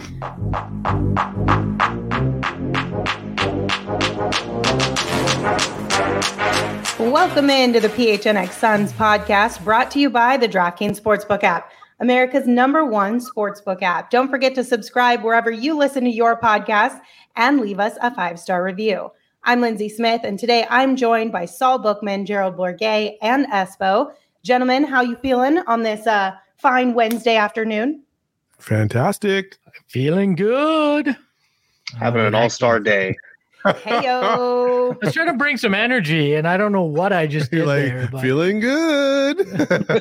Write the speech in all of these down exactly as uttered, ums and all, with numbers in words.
Welcome into the P H N X Suns podcast, brought to you by the DraftKings Sportsbook app, America's number one sportsbook app. Don't forget to subscribe wherever you listen to your podcast and leave us a five-star review. I'm Lindsay Smith, and today I'm joined by Saul Bookman, Gerald Bourguet, and Espo. Gentlemen, how you feeling on this uh, fine Wednesday afternoon? Fantastic. Feeling good. Having an all-star day. Hey-yo. I was trying to bring some energy, and I don't know what I just did like, there. But... Feeling good.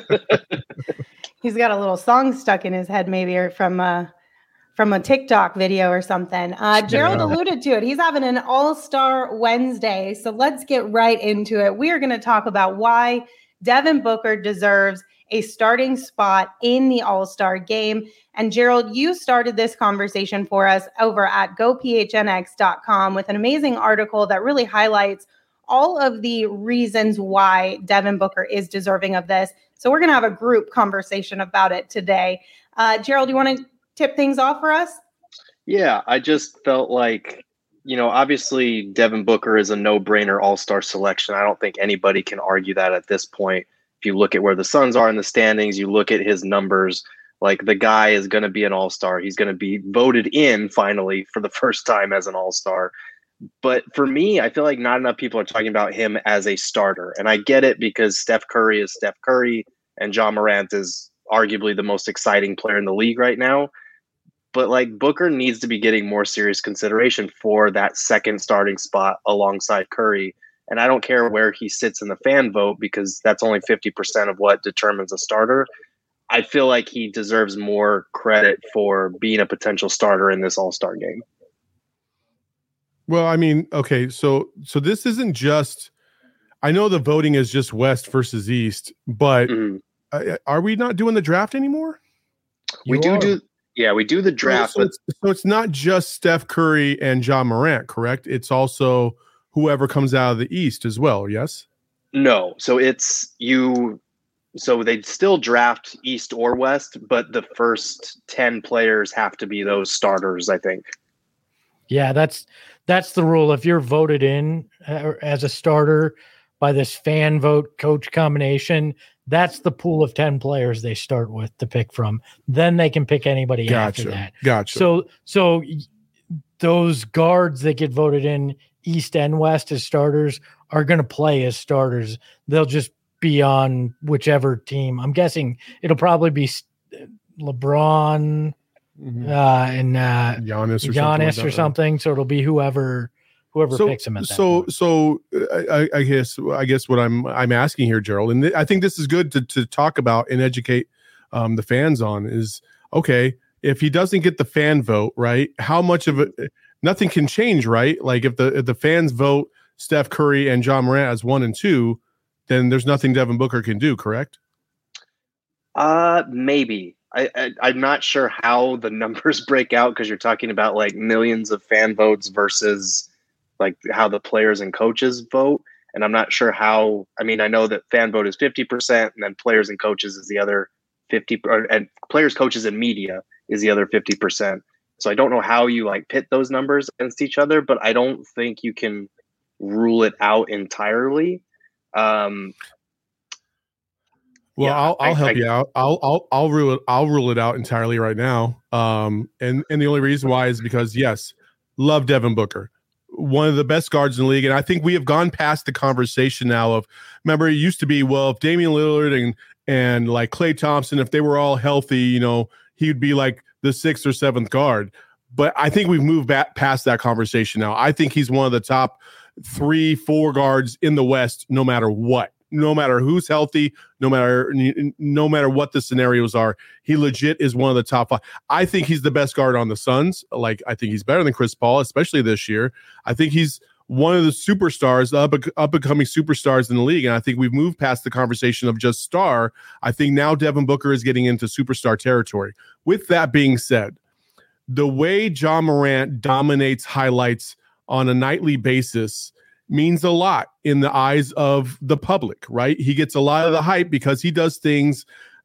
He's got a little song stuck in his head, maybe, or from uh, from a TikTok video or something. Uh, Gerald yeah. alluded to it. He's having an all-star Wednesday, so let's get right into it. We are going to talk about why Devin Booker deserves a starting spot in the All-Star game. And Gerald, you started this conversation for us over at go p h n x dot com with an amazing article that really highlights all of the reasons why Devin Booker is deserving of this. So we're going to have a group conversation about it today. Uh, Gerald, you want to tip things off for us? Yeah, I just felt like, you know, obviously Devin Booker is a no-brainer all-star selection. I don't think anybody can argue that at this point. If you look at where the Suns are in the standings, you look at his numbers, like the guy is going to be an all-star. He's going to be voted in finally for the first time as an all-star. But for me, I feel like not enough people are talking about him as a starter. And I get it because Steph Curry is Steph Curry and Ja Morant is arguably the most exciting player in the league right now. But like Booker needs to be getting more serious consideration for that second starting spot alongside Curry. And I don't care where he sits in the fan vote because that's only fifty percent of what determines a starter. I feel like he deserves more credit for being a potential starter in this all-star game. Well, I mean, okay, so so this isn't just – I know the voting is just West versus East, but mm-hmm. uh, are we not doing the draft anymore? We you do are. do – yeah, we do the draft. So, so, it's, so it's not just Steph Curry and Ja Morant, correct? It's also – whoever comes out of the East as well, yes? No. So it's you. So they'd still draft East or West, but the first ten players have to be those starters, I think. Yeah, that's that's the rule. If you're voted in uh, as a starter by this fan vote coach combination, that's the pool of ten players they start with to pick from. Then they can pick anybody gotcha. after that. Gotcha. So so those guards that get voted in East and West as starters are going to play as starters. They'll just be on whichever team. I'm guessing it'll probably be LeBron mm-hmm. uh, and uh, Giannis or Giannis something. Like or something. So it'll be whoever whoever so, picks him at that so, point. So I, I guess I guess what I'm I'm asking here, Gerald, and th- I think this is good to to talk about and educate um, the fans on is okay. If he doesn't get the fan vote, right? How much of it? Nothing can change, right? Like if the if the fans vote Steph Curry and Ja Morant as one and two, then there's nothing Devin Booker can do, correct? Uh, maybe. I, I I'm not sure how the numbers break out because you're talking about like millions of fan votes versus like how the players and coaches vote, and I'm not sure how. I mean, I know that fan vote is fifty percent, and then players and coaches is the other fifty, or, and players, coaches, and media is the other fifty percent. So I don't know how you like pit those numbers against each other, but I don't think you can rule it out entirely. Um, well, yeah, I'll, I'll I, help I, you out. I'll, I'll, I'll rule it. I'll rule it out entirely right now. Um, and, and the only reason why is because yes, love Devin Booker, one of the best guards in the league. And I think we have gone past the conversation now of, remember it used to be, well, if Damian Lillard and, and like Klay Thompson, if they were all healthy, you know, he'd be like the sixth or seventh guard. But I think we've moved back past that conversation now. I think he's one of the top three, four guards in the West, no matter what, no matter who's healthy, no matter, no matter what the scenarios are. He legit is one of the top five. I think he's the best guard on the Suns. Like, I think he's better than Chris Paul, especially this year. I think he's one of the superstars, up, up and coming superstars in the league. And I think we've moved past the conversation of just star. I think now Devin Booker is getting into superstar territory. With that being said, the way Ja Morant dominates highlights on a nightly basis means a lot in the eyes of the public, right? He gets a lot of the hype because he does things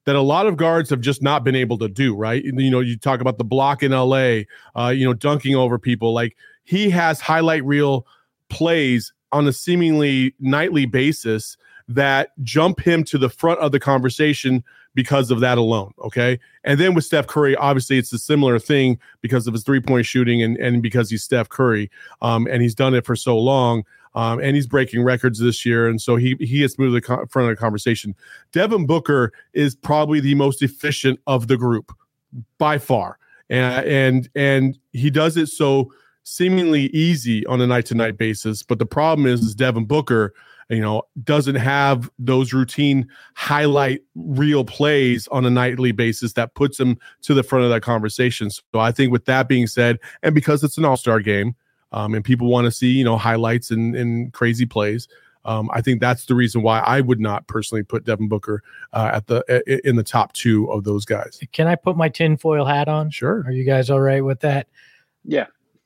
that a lot of guards have just not been able to do, right? You know, you talk about the block in L A, uh, you know, dunking over people. Like, he has highlight reel plays on a seemingly nightly basis that jump him to the front of the conversation because of that alone, okay? And then with Steph Curry, obviously it's a similar thing because of his three-point shooting and, and because he's Steph Curry, um, and he's done it for so long, um, and he's breaking records this year, and so he he has moved to the co- front of the conversation. Devin Booker is probably the most efficient of the group by far, and and, and he does it so seemingly easy on a night-to-night basis, but the problem is, is Devin Booker, you know, doesn't have those routine highlight reel plays on a nightly basis that puts him to the front of that conversation. So I think with that being said, and because it's an all-star game, um, and people want to see, you know, highlights and, and crazy plays, um, I think that's the reason why I would not personally put Devin Booker uh, at the in the top two of those guys. Can I put my tinfoil hat on? Sure. Are you guys all right with that? Yeah.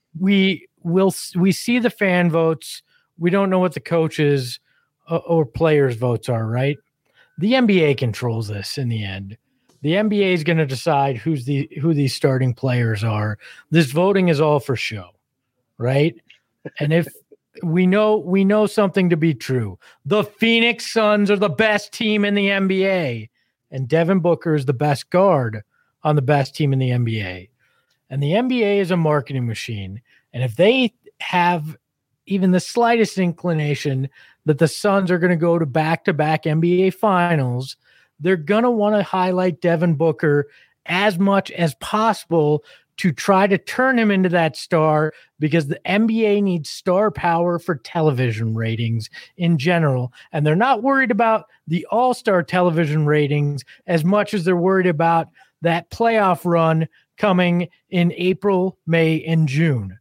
We will. We see the fan votes. We don't know what the coaches uh, or players' votes are, right? The N B A controls this in the end. The N B A is going to decide who's the who these starting players are. This voting is all for show, right? And if we know we know something to be true, the Phoenix Suns are the best team in the N B A, and Devin Booker is the best guard on the best team in the N B A. And the N B A is a marketing machine. And if they have even the slightest inclination that the Suns are going to go to back-to-back N B A finals, they're going to want to highlight Devin Booker as much as possible to try to turn him into that star, because the N B A needs star power for television ratings in general. And they're not worried about the all-star television ratings as much as they're worried about that playoff run coming in April, May, and June.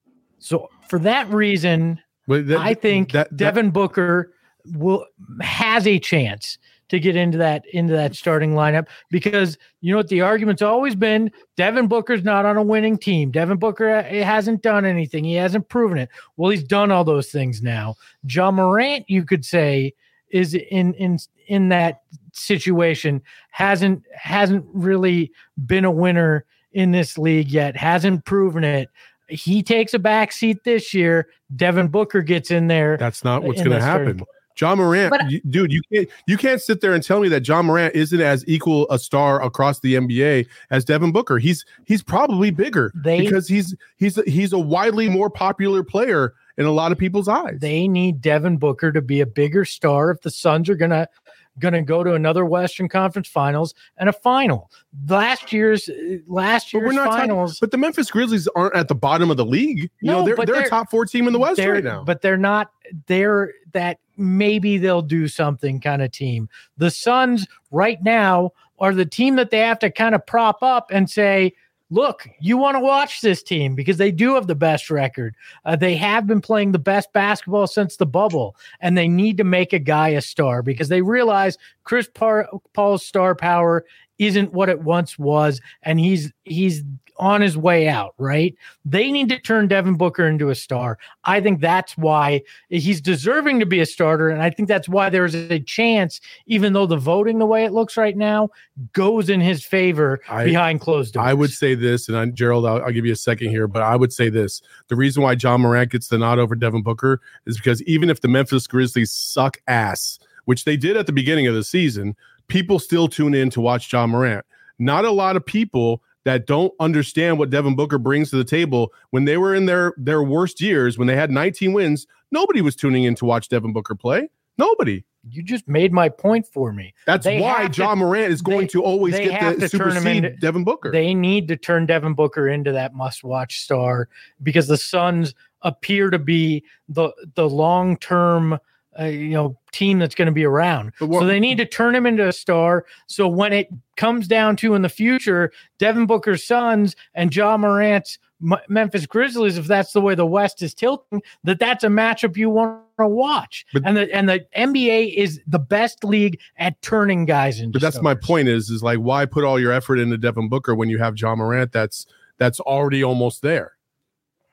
So for that reason, But that, I think that, that, Devin Booker will has a chance to get into that into that starting lineup, because you know what the argument's always been: Devin Booker's not on a winning team. Devin Booker hasn't done anything. He hasn't proven it. Well, he's done all those things now. Ja Morant, you could say, is in in in that situation, hasn't hasn't really been a winner in this league yet, hasn't proven it. He takes a back seat this year. Devin Booker gets in there. That's not what's going to happen. Ja Morant, But, you, dude, you can't you can't sit there and tell me that Ja Morant isn't as equal a star across the N B A as Devin Booker. He's he's probably bigger They- because he's he's he's a widely more popular player in a lot of people's eyes. They need Devin Booker to be a bigger star if the Suns are gonna gonna go to another Western Conference Finals and a final. Last year's last but year's we're not finals. talking, but the Memphis Grizzlies aren't at the bottom of the league. You No, know, they're but they're, they're- a top four team in the West they're- right now. But they're not. They're that maybe they'll do something kind of team. The Suns right now are the team that they have to kind of prop up and say, look, you want to watch this team because they do have the best record. Uh, they have been playing the best basketball since the bubble, and they need to make a guy a star because they realize Chris Par- Paul's star power isn't what it once was, and he's he's on his way out, right? They need to turn Devin Booker into a star. I think that's why he's deserving to be a starter, and I think that's why there's a chance, even though the voting the way it looks right now goes in his favor I- behind closed doors. I would say this, and I, Gerald, I'll, I'll give you a second here, but I would say this. The reason why Ja Morant gets the nod over Devin Booker is because even if the Memphis Grizzlies suck ass, which they did at the beginning of the season, people still tune in to watch Ja Morant. Not a lot of people that don't understand what Devin Booker brings to the table. When they were in their, their worst years, when they had nineteen wins, nobody was tuning in to watch Devin Booker play. Nobody. You just made my point for me. That's They why have to- Ja Morant is going they- to always they get have the to turn him supersede into- Devin Booker. They need to turn Devin Booker into that must-watch star because the Suns appear to be the the long-term uh, you know team that's going to be around. But what- So they need to turn him into a star. So when it comes down to in the future, Devin Booker's Suns and Ja Morant's M- Memphis Grizzlies, if that's the way the West is tilting, that that's a matchup you want to watch. But- and the and the N B A is the best league at turning guys into But that's my stars. point is, is like, why put all your effort into Devin Booker when you have Ja Morant that's that's already almost there?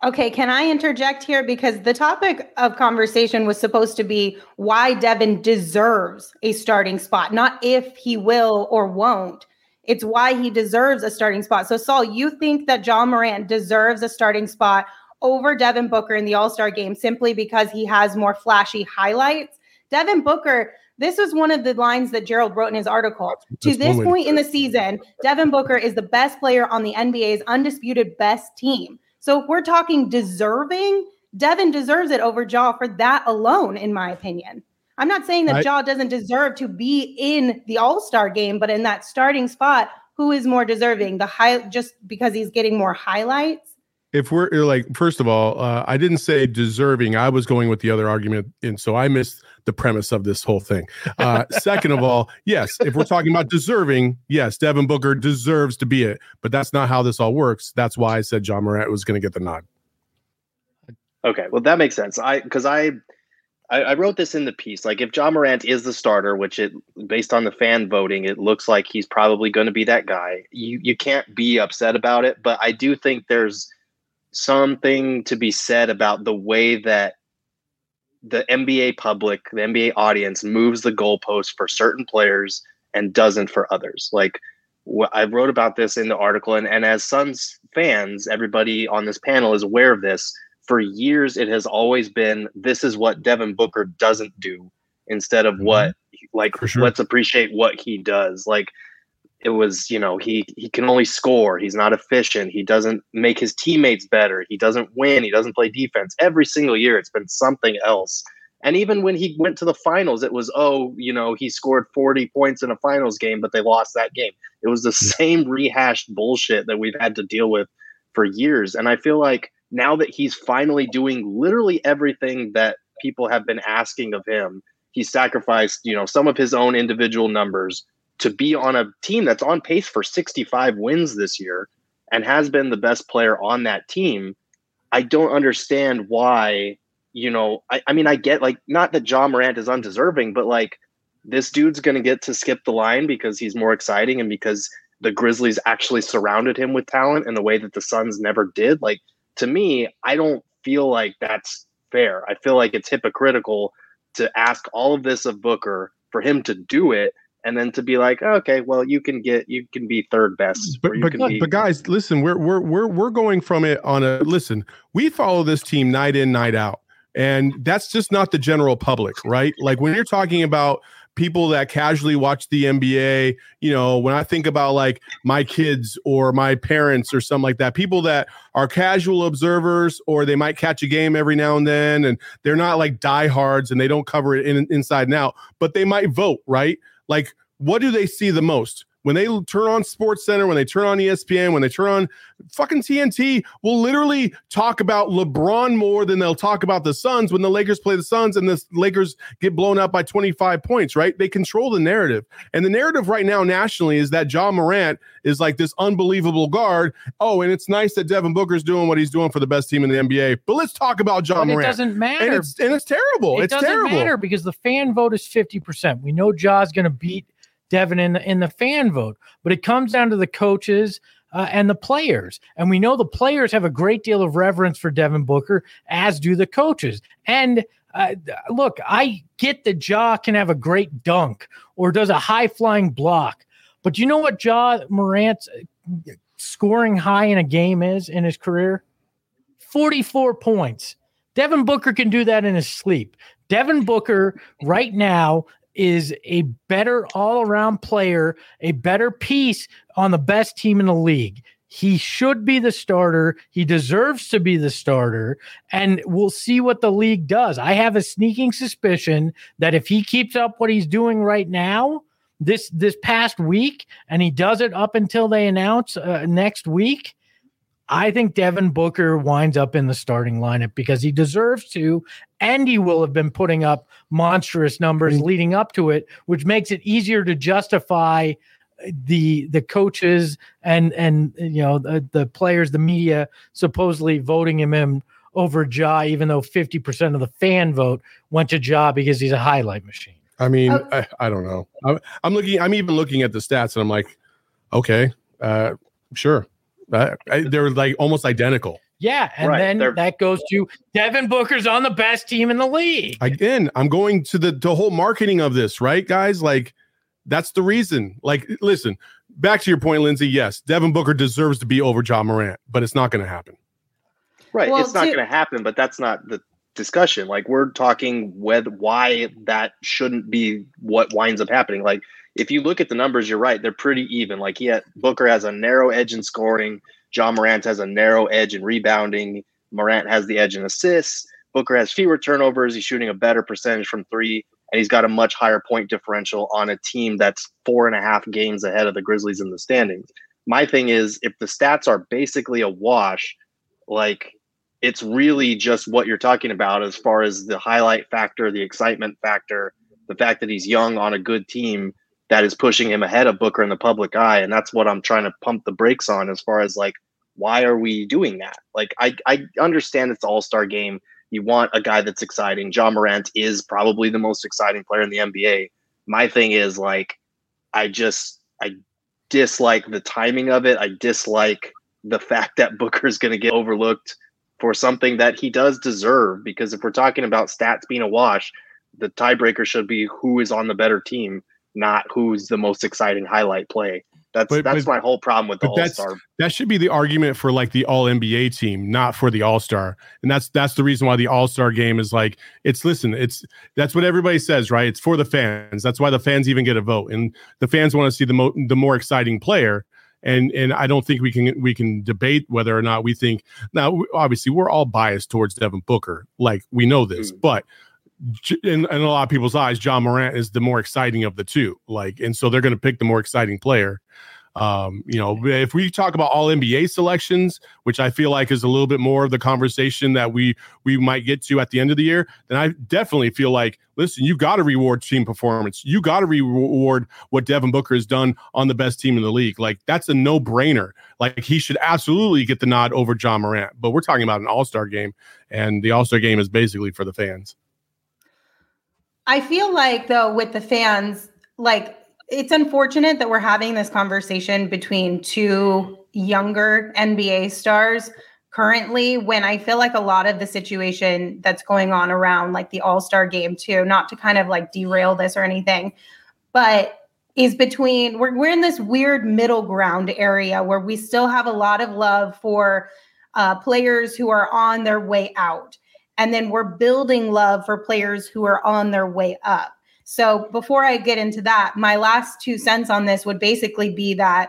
Okay, can I interject here? Because the topic of conversation was supposed to be why Devin deserves a starting spot, not if he will or won't. It's why he deserves a starting spot. So, Saul, you think that Ja Morant deserves a starting spot over Devin Booker in the All-Star game simply because he has more flashy highlights? Devin Booker, this was one of the lines that Gerald wrote in his article. To this point in the season, Devin Booker is the best player on the N B A's undisputed best team. So if we're talking deserving, Devin deserves it over Ja for that alone, in my opinion. I'm not saying that I, Ja doesn't deserve to be in the All-Star game, but in that starting spot, who is more deserving? The high, just because he's getting more highlights? If we're like, first of all, uh, I didn't say deserving. I was going with the other argument. And so I missed the premise of this whole thing. Uh, second of all, yes, if we're talking about deserving, yes, Devin Booker deserves to be it. But that's not how this all works. That's why I said Ja Morant was going to get the nod. Okay, well, that makes sense. I because I, I I wrote this in the piece. Like, if Ja Morant is the starter, which it based on the fan voting, it looks like he's probably going to be that guy. You you can't be upset about it. But I do think there's something to be said about the way that the N B A public, the N B A audience moves the goalpost for certain players and doesn't for others. Like, wh- I wrote about this in the article, and, and as Suns fans, everybody on this panel is aware of this. For years, it has always been, this is what Devin Booker doesn't do, instead of what, like, sure. Let's appreciate what he does. Like, it was, you know, he he can only score. He's not efficient. He doesn't make his teammates better. He doesn't win. He doesn't play defense. Every single year, it's been something else. And even when he went to the finals, it was, oh, you know, he scored forty points in a finals game, but they lost that game. It was the same rehashed bullshit that we've had to deal with for years. And I feel like now that he's finally doing literally everything that people have been asking of him, he sacrificed, you know, some of his own individual numbers to be on a team that's on pace for sixty-five wins this year and has been the best player on that team. I don't understand why, you know, I, I mean, I get, like, not that Ja Morant is undeserving, but like, this dude's going to get to skip the line because he's more exciting and because the Grizzlies actually surrounded him with talent in the way that the Suns never did. Like, to me, I don't feel like that's fair. I feel like it's hypocritical to ask all of this of Booker for him to do it, and then to be like, oh, okay, well, you can get, you can be third best. But but, be- but guys, listen, we're we're we're we're going from it on a listen. We follow this team night in, night out, and that's just not the general public, right? Like, when you're talking about people that casually watch the N B A, you know, when I think about like my kids or my parents or something like that, people that are casual observers, or they might catch a game every now and then, and they're not like diehards and they don't cover it in, inside and out, but they might vote, right? Like, what do they see the most? When they turn on SportsCenter, when they turn on E S P N, when they turn on fucking T N T, will literally talk about LeBron more than they'll talk about the Suns when the Lakers play the Suns and the Lakers get blown up by twenty-five points, right? They control the narrative. And the narrative right now nationally is that Ja Morant is like this unbelievable guard. Oh, and it's nice that Devin Booker's doing what he's doing for the best team in the N B A. But let's talk about Ja but Morant. It doesn't matter. And it's, and it's terrible. It it's doesn't terrible. matter because the fan vote is fifty percent. We know Ja's going to beat Devin in the, in the fan vote, but it comes down to the coaches uh, and the players. And we know the players have a great deal of reverence for Devin Booker, as do the coaches. And uh, look, I get that Ja can have a great dunk or does a high flying block, but you know what Ja Morant's scoring high in a game is in his career? forty-four points. Devin Booker can do that in his sleep. Devin Booker right now is a better all-around player, a better piece on the best team in the league. He should be the starter. He deserves to be the starter, and we'll see what the league does. I have a sneaking suspicion that if he keeps up what he's doing right now, this this past week, and he does it up until they announce uh, next week, I think Devin Booker winds up in the starting lineup because he deserves to, and he will have been putting up monstrous numbers leading up to it, which makes it easier to justify the the coaches and and you know the, the players, the media supposedly voting him in over Ja, even though fifty percent of the fan vote went to Ja because he's a highlight machine. I mean, oh. I, I don't know. I'm, I'm looking. I'm even looking at the stats, and I'm like, okay, uh, sure. Uh, I, they're like almost identical. Yeah, and Right, then they're- that goes to Devin Booker's on the best team in the league. Again, I'm going to the, the whole marketing of this, right, guys? Like, that's the reason. Like, listen, back to your point, Lindsay. Yes, Devin Booker deserves to be over Ja Morant, but it's not going to happen. Right. Well, it's not to- going to happen, but that's not the discussion. Like, we're talking whether why that shouldn't be what winds up happening. Like, if you look at the numbers, you're right. They're pretty even. Like, he had, Booker has a narrow edge in scoring. Ja Morant has a narrow edge in rebounding. Morant has the edge in assists. Booker has fewer turnovers. He's shooting a better percentage from three, and he's got a much higher point differential on a team that's four and a half games ahead of the Grizzlies in the standings. My thing is, if the stats are basically a wash, like, it's really just what you're talking about as far as the highlight factor, the excitement factor, the fact that he's young on a good team that is pushing him ahead of Booker in the public eye. And that's what I'm trying to pump the brakes on as far as, like, why are we doing that? Like, I, I understand it's the all-star game. You want a guy that's exciting. Ja Morant is probably the most exciting player in the N B A. My thing is, like, I just, I dislike the timing of it. I dislike the fact that Booker's going to get overlooked for something that he does deserve, because if we're talking about stats being a wash, the tiebreaker should be who is on the better team, not who's the most exciting highlight play. That's But- that's but- my whole problem with the but that's- All-Star. That should be the argument for like the all N B A team, not for the All-Star. And that's that's the reason why the All-Star game is like, it's listen, it's that's what everybody says, right? It's for the fans. That's why the fans even get a vote. And the fans want to see the mo- the more exciting player. And and I don't think we can we can debate whether or not we think, now obviously we're all biased towards Devin Booker. Like, we know this, Mm. but J- in, in a lot of people's eyes, Ja Morant is the more exciting of the two. Like, and so they're going to pick the more exciting player. Um, you know, if we talk about all N B A selections, which I feel like is a little bit more of the conversation that we we might get to at the end of the year, then I definitely feel like, listen, you got to reward team performance. You got to reward what Devin Booker has done on the best team in the league. Like, that's a no brainer. Like, he should absolutely get the nod over Ja Morant. But we're talking about an All-Star game, and the All-Star game is basically for the fans. I feel like, though, with the fans, like, it's unfortunate that we're having this conversation between two younger N B A stars currently, when I feel like a lot of the situation that's going on around, like, the All-Star game too, not to kind of like derail this or anything, but is between, we're, we're in this weird middle ground area where we still have a lot of love for uh, players who are on their way out. And then we're building love for players who are on their way up. So before I get into that, my last two cents on this would basically be that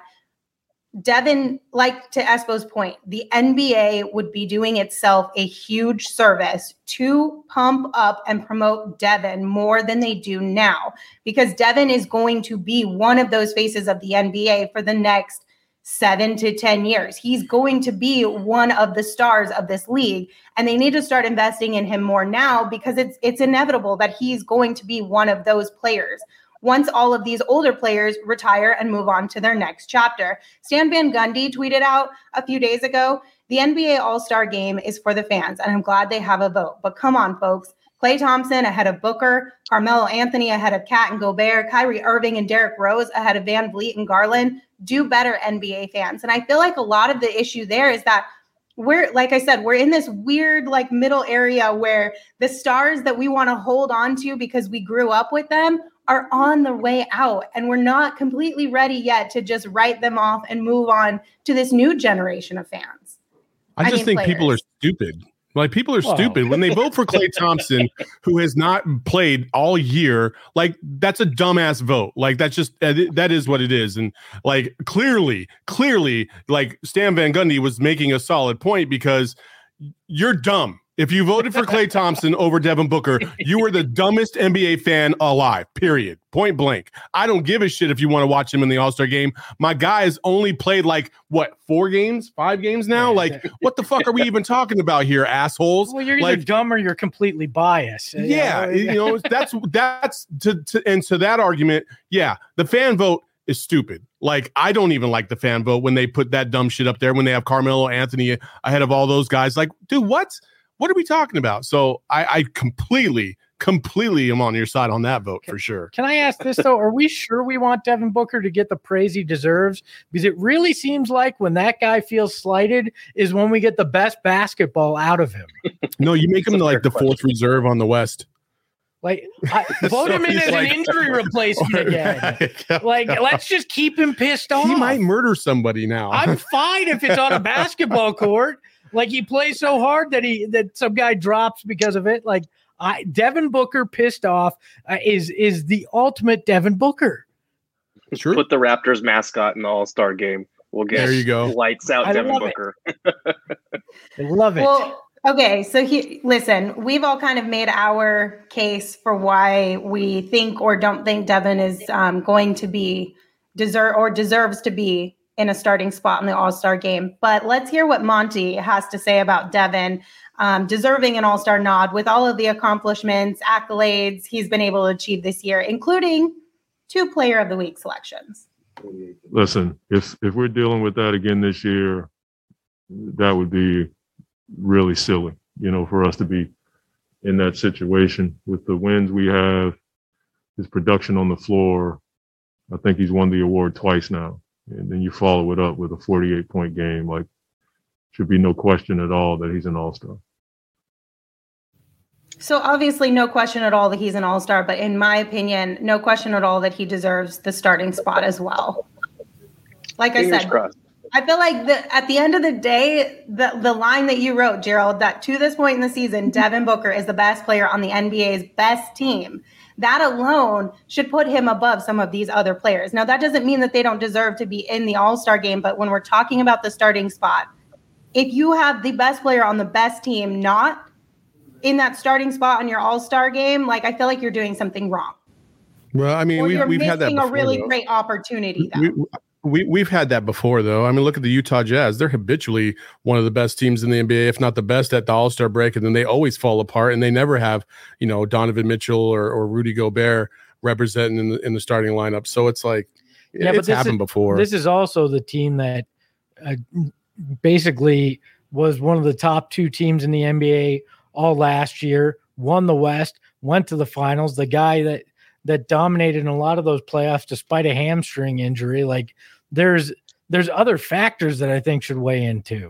Devin, like to Espo's point, the N B A would be doing itself a huge service to pump up and promote Devin more than they do now, because Devin is going to be one of those faces of the N B A for the next seven to ten years. He's going to be one of the stars of this league, and they need to start investing in him more now, because it's it's inevitable that he's going to be one of those players once all of these older players retire and move on to their next chapter. Stan Van Gundy tweeted out a few days ago, the N B A All-Star Game is for the fans, and I'm glad they have a vote. But come on, folks. Klay Thompson ahead of Booker, Carmelo Anthony ahead of Kat and Gobert, Kyrie Irving and Derrick Rose ahead of Van Vliet and Garland. Do better, N B A fans. And I feel like a lot of the issue there is that we're, like I said, we're in this weird like middle area where the stars that we want to hold on to because we grew up with them are on the way out, and we're not completely ready yet to just write them off and move on to this new generation of fans. I just I mean, think people are players. stupid. Like, people are Wow. stupid when they vote for Klay Thompson, who has not played all year. Like, that's a dumbass vote. Like, that's just that is what it is. And like, clearly, clearly, like, Stan Van Gundy was making a solid point, because you're dumb. If you voted for Klay Thompson over Devin Booker, you were the dumbest N B A fan alive, period. Point blank. I don't give a shit if you want to watch him in the All-Star game. My guy has only played like, what, four games, five games now? Like, what the fuck are we even talking about here, assholes? Well, you're either like, dumb or you're completely biased. yeah, you know, that's, that's, to, to, and to that argument, yeah, the fan vote is stupid. Like, I don't even like the fan vote when they put that dumb shit up there, when they have Carmelo Anthony ahead of all those guys. Like, dude, what? What are we talking about? So I, I completely, completely am on your side on that vote for sure. Can I ask this though? Are we sure we want Devin Booker to get the praise he deserves? Because it really seems like when that guy feels slighted is when we get the best basketball out of him. No, you make him like the fourth reserve on the West. Like, I, vote So him in he's as like- an injury replacement again. Like, let's just keep him pissed off. He might murder somebody now. I'm fine if it's on a basketball court. Like, he plays so hard that he that some guy drops because of it. Like, I Devin Booker pissed off uh, is is the ultimate Devin Booker. Sure. Put the Raptors mascot in the All-Star game. We'll get There you go. lights out I Devin love it. Booker. I love it. Well, okay, so he, listen, we've all kind of made our case for why we think or don't think Devin is um, going to be deserve or deserves to be in a starting spot in the All-Star game. But let's hear what Monty has to say about Devin um, deserving an All-Star nod with all of the accomplishments, accolades he's been able to achieve this year, including two Player of the Week selections. Listen, if if we're dealing with that again this year, that would be really silly, you know, for us to be in that situation with the wins we have, his production on the floor. I think he's won the award twice now. And then you follow it up with a forty-eight point game. Like, should be no question at all that he's an all-star. So obviously no question at all that he's an all-star, but in my opinion, no question at all that he deserves the starting spot as well. Like I Fingers said, crossed. I feel like the, at the end of the day, the, the line that you wrote, Gerald, that to this point in the season, Devin Booker is the best player on the N B A's best team. That alone should put him above some of these other players. Now, that doesn't mean that they don't deserve to be in the All-Star game, but when we're talking about the starting spot, if you have the best player on the best team not in that starting spot on your All-Star game, like, I feel like you're doing something wrong. Well, I mean, Or we've, you're we've had that missing before, a really though. great opportunity, though. We, we, we've had that before, though. I mean, look at the Utah Jazz. They're habitually one of the best teams in the N B A, if not the best at the All-Star break, and then they always fall apart, and they never have, you know, Donovan Mitchell or, or Rudy Gobert representing in the, in the starting lineup. So it's like, Yeah, but it's this happened is- before. This is also the team that uh, basically was one of the top two teams in the N B A all last year, won the West, went to the finals. The guy that that dominated in a lot of those playoffs despite a hamstring injury. Like, there's there's other factors that I think should weigh in too.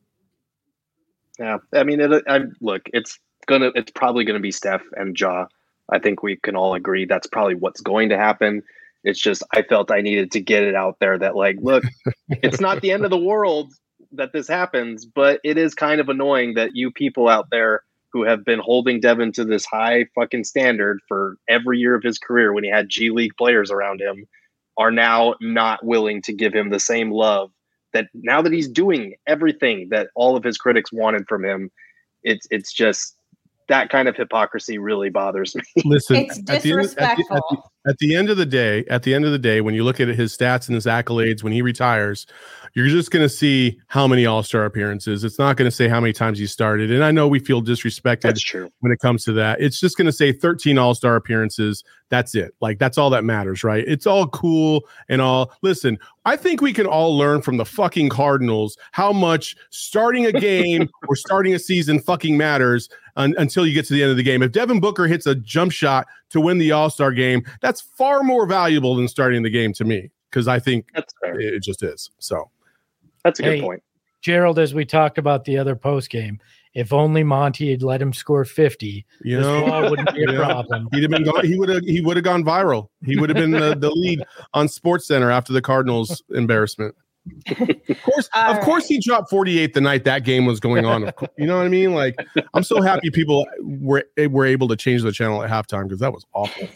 Yeah, I mean, it, I look, it's gonna, it's probably gonna be Steph and Ja. I think we can all agree that's probably what's going to happen. It's just I felt I needed to get it out there that, like, look, it's not the end of the world that this happens, but it is kind of annoying that you people out there who have been holding Devin to this high fucking standard for every year of his career when he had G League players around him are now not willing to give him the same love that now that he's doing everything that all of his critics wanted from him. It's it's just that kind of hypocrisy really bothers me. Listen, It's at the, end, at, the, at, the, disrespectful. at the end of the day, at the end of the day, when you look at his stats and his accolades, when he retires, you're just going to see how many All-Star appearances. It's not going to say how many times he started. And I know we feel disrespected That's true. when it comes to that. It's just going to say thirteen All-Star appearances. That's it. Like, that's all that matters, right? It's all cool and all. Listen, I think we can all learn from the fucking Cardinals how much starting a game or starting a season fucking matters un- until you get to the end of the game. If Devin Booker hits a jump shot to win the All-Star game, that's far more valuable than starting the game to me, because I think That's fair. it, it just is. So That's a good Hey, point. Gerald, as we talked about the other post game, if only Monty had let him score fifty, you this know, ball wouldn't be a Yeah. problem. he'd have been gone, he would have he would have gone viral. He would have been the, the lead on Sports Center after the Cardinals embarrassment. Of course, All of course, he dropped forty-eight the night that game was going on. Of course, you know what I mean? Like, I'm so happy people were were able to change the channel at halftime, because that was awful.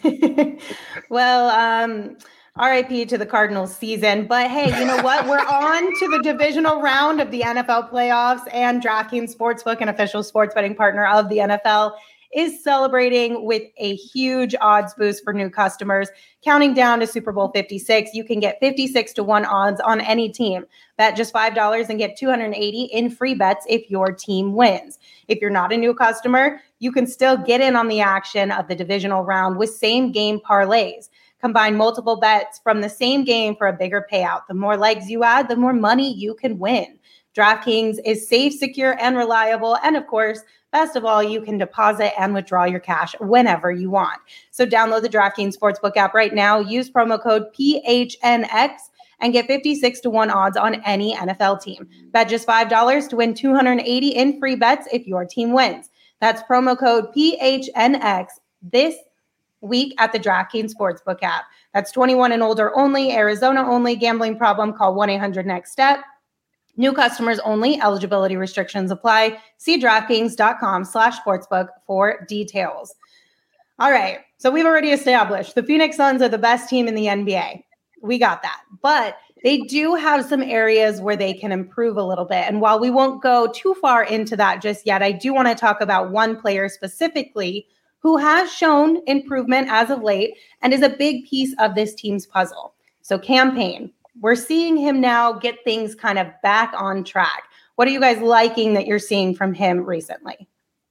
Well, um, R I P to the Cardinals season. But hey, you know what? We're on to the divisional round of the N F L playoffs, and DraftKings Sportsbook, an official sports betting partner of the N F L, is celebrating with a huge odds boost for new customers. Counting down to Super Bowl fifty-six, you can get fifty-six to one odds on any team. Bet just five dollars and get two hundred eighty in free bets if your team wins. If you're not a new customer, you can still get in on the action of the divisional round with same game parlays. Combine multiple bets from the same game for a bigger payout. The more legs you add, the more money you can win. DraftKings is safe, secure, and reliable. And of course, best of all, you can deposit and withdraw your cash whenever you want. So download the DraftKings Sportsbook app right now. Use promo code P H N X and get fifty-six to one odds on any N F L team. Bet just five dollars to win two hundred eighty in free bets if your team wins. That's promo code P H N X this week at the DraftKings Sportsbook app. That's twenty-one and older only, Arizona only. Gambling problem? Call one eight hundred next step. New customers only. Eligibility restrictions apply. See DraftKings.com slash sportsbook for details. All right. So we've already established the Phoenix Suns are the best team in the N B A. We got that. But they do have some areas where they can improve a little bit. And while we won't go too far into that just yet, I do want to talk about one player specifically who has shown improvement as of late and is a big piece of this team's puzzle. So Cam Payne, we're seeing him now get things kind of back on track. What are you guys liking that you're seeing from him recently?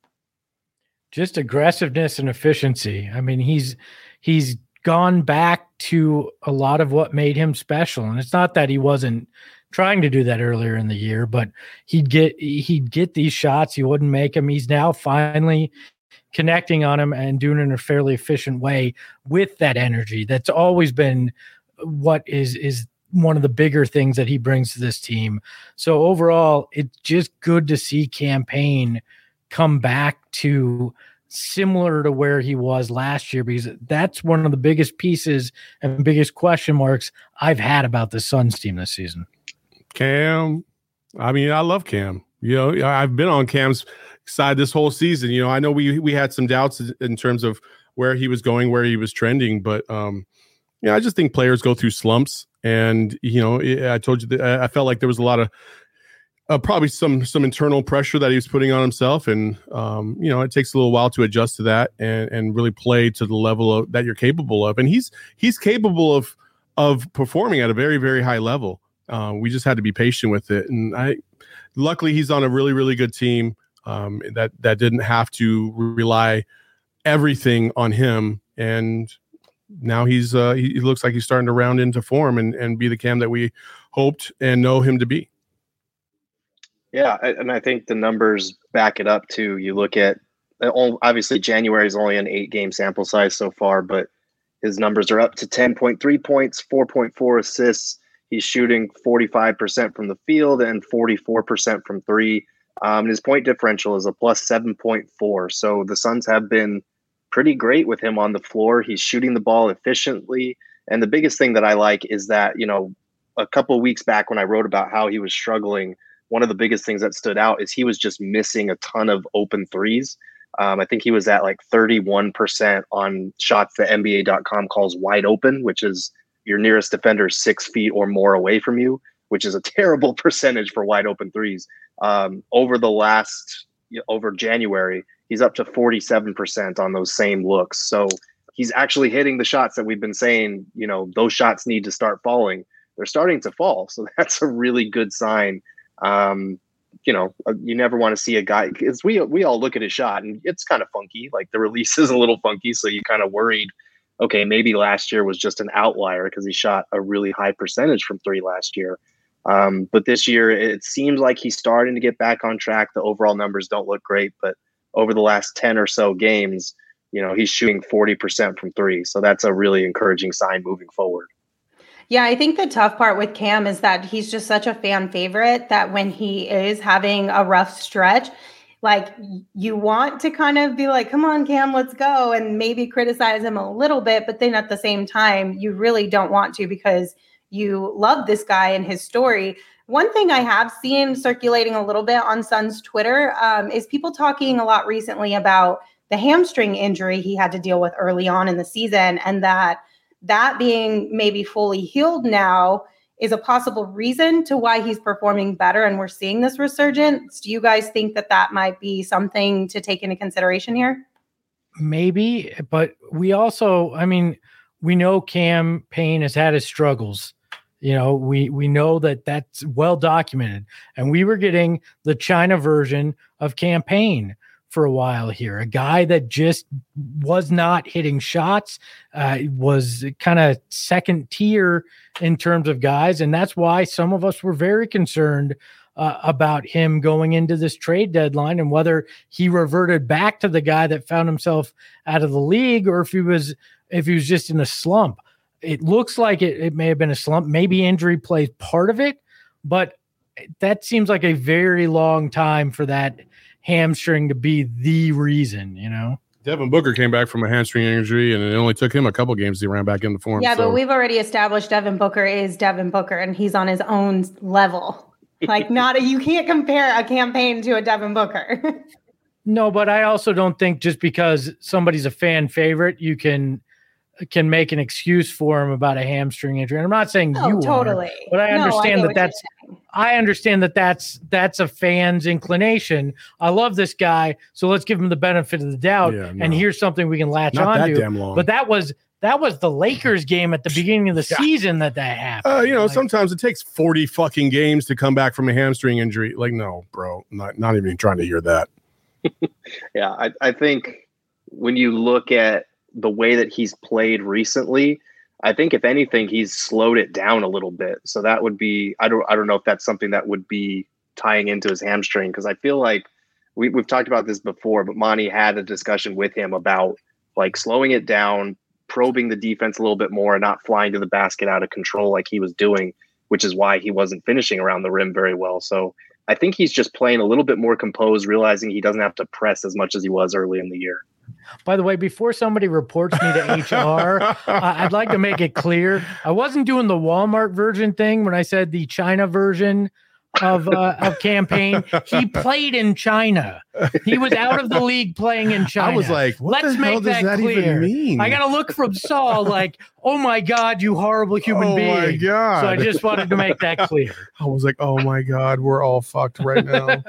Just aggressiveness and efficiency. I mean, he's he's gone back to a lot of what made him special. And it's not that he wasn't trying to do that earlier in the year, but he'd get he'd get these shots, he wouldn't make them. He's now finally connecting on him and doing it in a fairly efficient way with that energy. That's always been what is is one of the bigger things that he brings to this team. So overall, it's just good to see Cam Payne come back to similar to where he was last year, because that's one of the biggest pieces and biggest question marks I've had about the Suns team this season. Cam, I mean, I love Cam. You know, I've been on Cam's side this whole season. You know, I know we we had some doubts in terms of where he was going, where he was trending, but um, yeah, I just think players go through slumps. And, you know, I told you that I felt like there was a lot of uh, probably some some internal pressure that he was putting on himself. And, um, you know, it takes a little while to adjust to that and, and really play to the level of, that you're capable of. And he's he's capable of of performing at a very, very high level. Uh, we just had to be patient with it. And I luckily he's on a really, really good team um, that, that didn't have to rely everything on him. And now he's uh, he, he looks like he's starting to round into form and, and be the Cam that we hoped and know him to be. Yeah, and I think the numbers back it up too. You look at obviously January is only an eight game sample size so far, but his numbers are up to ten point three points, four point four assists. He's shooting forty-five percent from the field and forty-four percent from three. Um, and his point differential is a plus seven point four. So the Suns have been pretty great with him on the floor. He's shooting the ball efficiently. And the biggest thing that I like is that, you know, a couple of weeks back when I wrote about how he was struggling, one of the biggest things that stood out is he was just missing a ton of open threes. Um, I think he was at like thirty-one percent on shots that N B A dot com calls wide open, which is your nearest defender six feet or more away from you, which is a terrible percentage for wide open threes. Um, over the last, you know, over January, he's up to forty-seven percent on those same looks. So he's actually hitting the shots that we've been saying, you know, those shots need to start falling. They're starting to fall. So that's a really good sign. Um, you know, you never want to see a guy, because we, we all look at his shot and it's kind of funky. Like the release is a little funky. So you kind of worried, okay, maybe last year was just an outlier because he shot a really high percentage from three last year. Um, but this year it seems like he's starting to get back on track. The overall numbers don't look great, but over the last ten or so games, you know, he's shooting forty percent from three. So that's a really encouraging sign moving forward. Yeah, I think the tough part with Cam is that he's just such a fan favorite that when he is having a rough stretch, like you want to kind of be like, come on, Cam, let's go. And maybe criticize him a little bit. But then at the same time, you really don't want to because you love this guy and his story. One thing I have seen circulating a little bit on Suns Twitter um, is people talking a lot recently about the hamstring injury he had to deal with early on in the season, and that that being maybe fully healed now is a possible reason to why he's performing better and we're seeing this resurgence. Do you guys think that that might be something to take into consideration here? Maybe, but we also, I mean, we know Cam Payne has had his struggles. You know, we we know that that's well documented, and we were getting the China version of Cam Payne for a while here, a guy that just was not hitting shots, uh, was kind of second tier in terms of guys, and that's why some of us were very concerned uh, about him going into this trade deadline and whether he reverted back to the guy that found himself out of the league or if he was if he was just in a slump. It looks like it, it may have been a slump. Maybe injury plays part of it, but that seems like a very long time for that hamstring to be the reason, you know? Devin Booker came back from a hamstring injury, and it only took him a couple games to ran back into form. Yeah, so. but we've already established Devin Booker is Devin Booker, and he's on his own level. Like, not a, you can't compare a campaign to a Devin Booker. No, but I also don't think just because somebody's a fan favorite, you can can make an excuse for him about a hamstring injury. And I'm not saying oh, you totally. are, but I no, understand I that that's I understand that that's that's a fan's inclination. I love this guy, so let's give him the benefit of the doubt. Yeah, no. And here's something we can latch Not on that to. damn long. But that was that was the Lakers game at the beginning of the Yeah. season that that happened. Uh, you know, Like, sometimes it takes forty fucking games to come back from a hamstring injury. Like, no, bro, not not even trying to hear that. Yeah, I, I think when you look at the way that he's played recently, I think if anything, he's slowed it down a little bit. So that would be, I don't, I don't know if that's something that would be tying into his hamstring. Cause I feel like we, we've talked about this before, but Monty had a discussion with him about like slowing it down, probing the defense a little bit more and not flying to the basket out of control like he was doing, which is why he wasn't finishing around the rim very well. So I think he's just playing a little bit more composed, realizing he doesn't have to press as much as he was early in the year. By the way, before somebody reports me to H R, uh, I'd like to make it clear I wasn't doing the Walmart version thing when I said the China version of uh, of campaign. He played in China. He was out of the league playing in China. I was like, what let's the make hell does that, that clear. even mean? I got to look from Saul like, oh my God, you horrible human oh being. my God. So I just wanted to make that clear. I was like, oh my God, we're all fucked right now.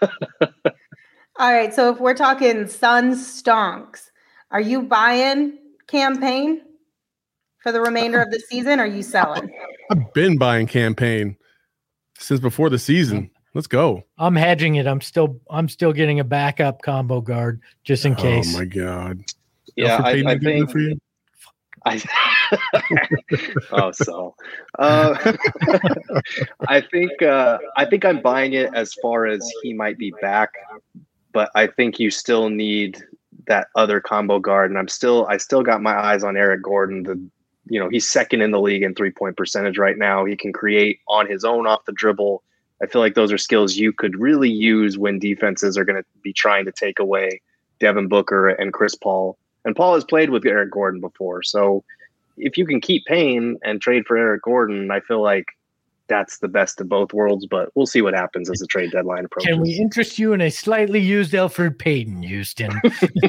All right. So if we're talking Suns stonks, are you buying campaign for the remainder of the season? Or are you selling? I've been buying campaign since before the season. Let's go. I'm hedging it. I'm still I'm still getting a backup combo guard just in case. Oh my God. Yeah, Alfred I, Payton I did good think. for you? I, oh, so uh, I think uh, I think I'm buying it as far as he might be back, but I think you still need that other combo guard, and I'm still I still got my eyes on Eric Gordon. The you know he's second in the league in three point percentage right now. He can create on his own off the dribble. I feel like those are skills you could really use when defenses are going to be trying to take away Devin Booker and Chris Paul. And Paul has played with Eric Gordon before. So if you can keep Payne and trade for Eric Gordon, I feel like that's the best of both worlds, but we'll see what happens as the trade deadline approaches. Can we interest you in a slightly used Elfrid Payton, Houston?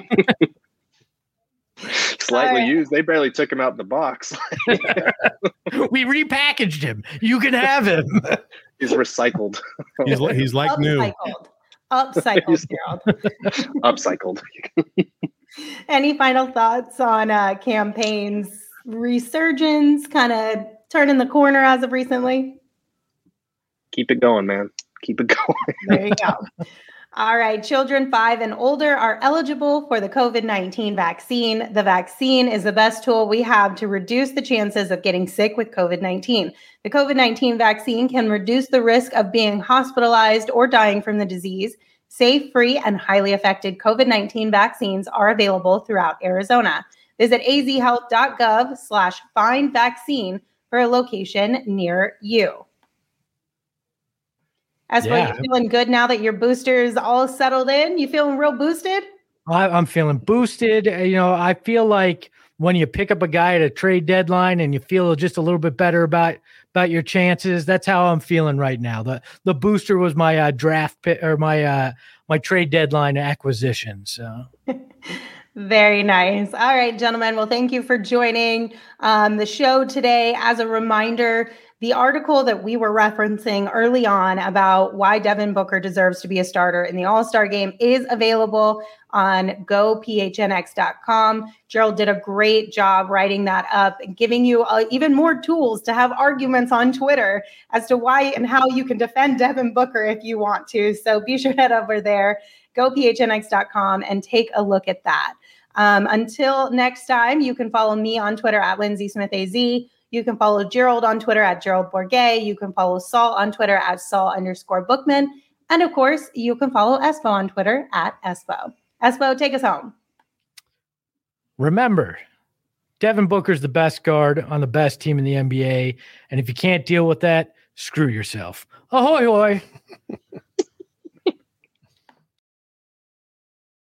Slightly right. used. They barely took him out in the box. We repackaged him. You can have him. He's recycled. He's, li- he's like new. Upcycled. Upcycled, Gerald. Upcycled. Any final thoughts on uh, campaign's resurgence, kind of turning the corner as of recently? Keep it going, man. Keep it going. There you go. All right. Children five and older are eligible for the COVID nineteen vaccine. The vaccine is the best tool we have to reduce the chances of getting sick with COVID nineteen. The COVID nineteen vaccine can reduce the risk of being hospitalized or dying from the disease. Safe, free, and highly effective COVID nineteen vaccines are available throughout Arizona. Visit azhealth.gov slash find vaccine for a location near you. As for Yeah. you feeling good now that your booster is all settled in? You feeling real boosted? I, I'm feeling boosted. Uh, You know, I feel like when you pick up a guy at a trade deadline and you feel just a little bit better about about your chances, that's how I'm feeling right now. The the booster was my uh, draft pick or my uh, my trade deadline acquisition. So. Very nice. All right, gentlemen. Well, thank you for joining um, the show today. As a reminder, the article that we were referencing early on about why Devin Booker deserves to be a starter in the All-Star game is available on go p h n x dot com. Gerald did a great job writing that up and giving you uh, even more tools to have arguments on Twitter as to why and how you can defend Devin Booker if you want to. So be sure to head over there, go p h n x dot com, and take a look at that. Um, until next time, you can follow me on Twitter at Lindsay Smith A Z. You can follow Gerald on Twitter at Gerald Bourget. You can follow Saul on Twitter at Saul underscore Bookman. And of course, you can follow Espo on Twitter at Espo. Espo, take us home. Remember, Devin Booker's the best guard on the best team in the N B A. And if you can't deal with that, screw yourself. Ahoy, hoy.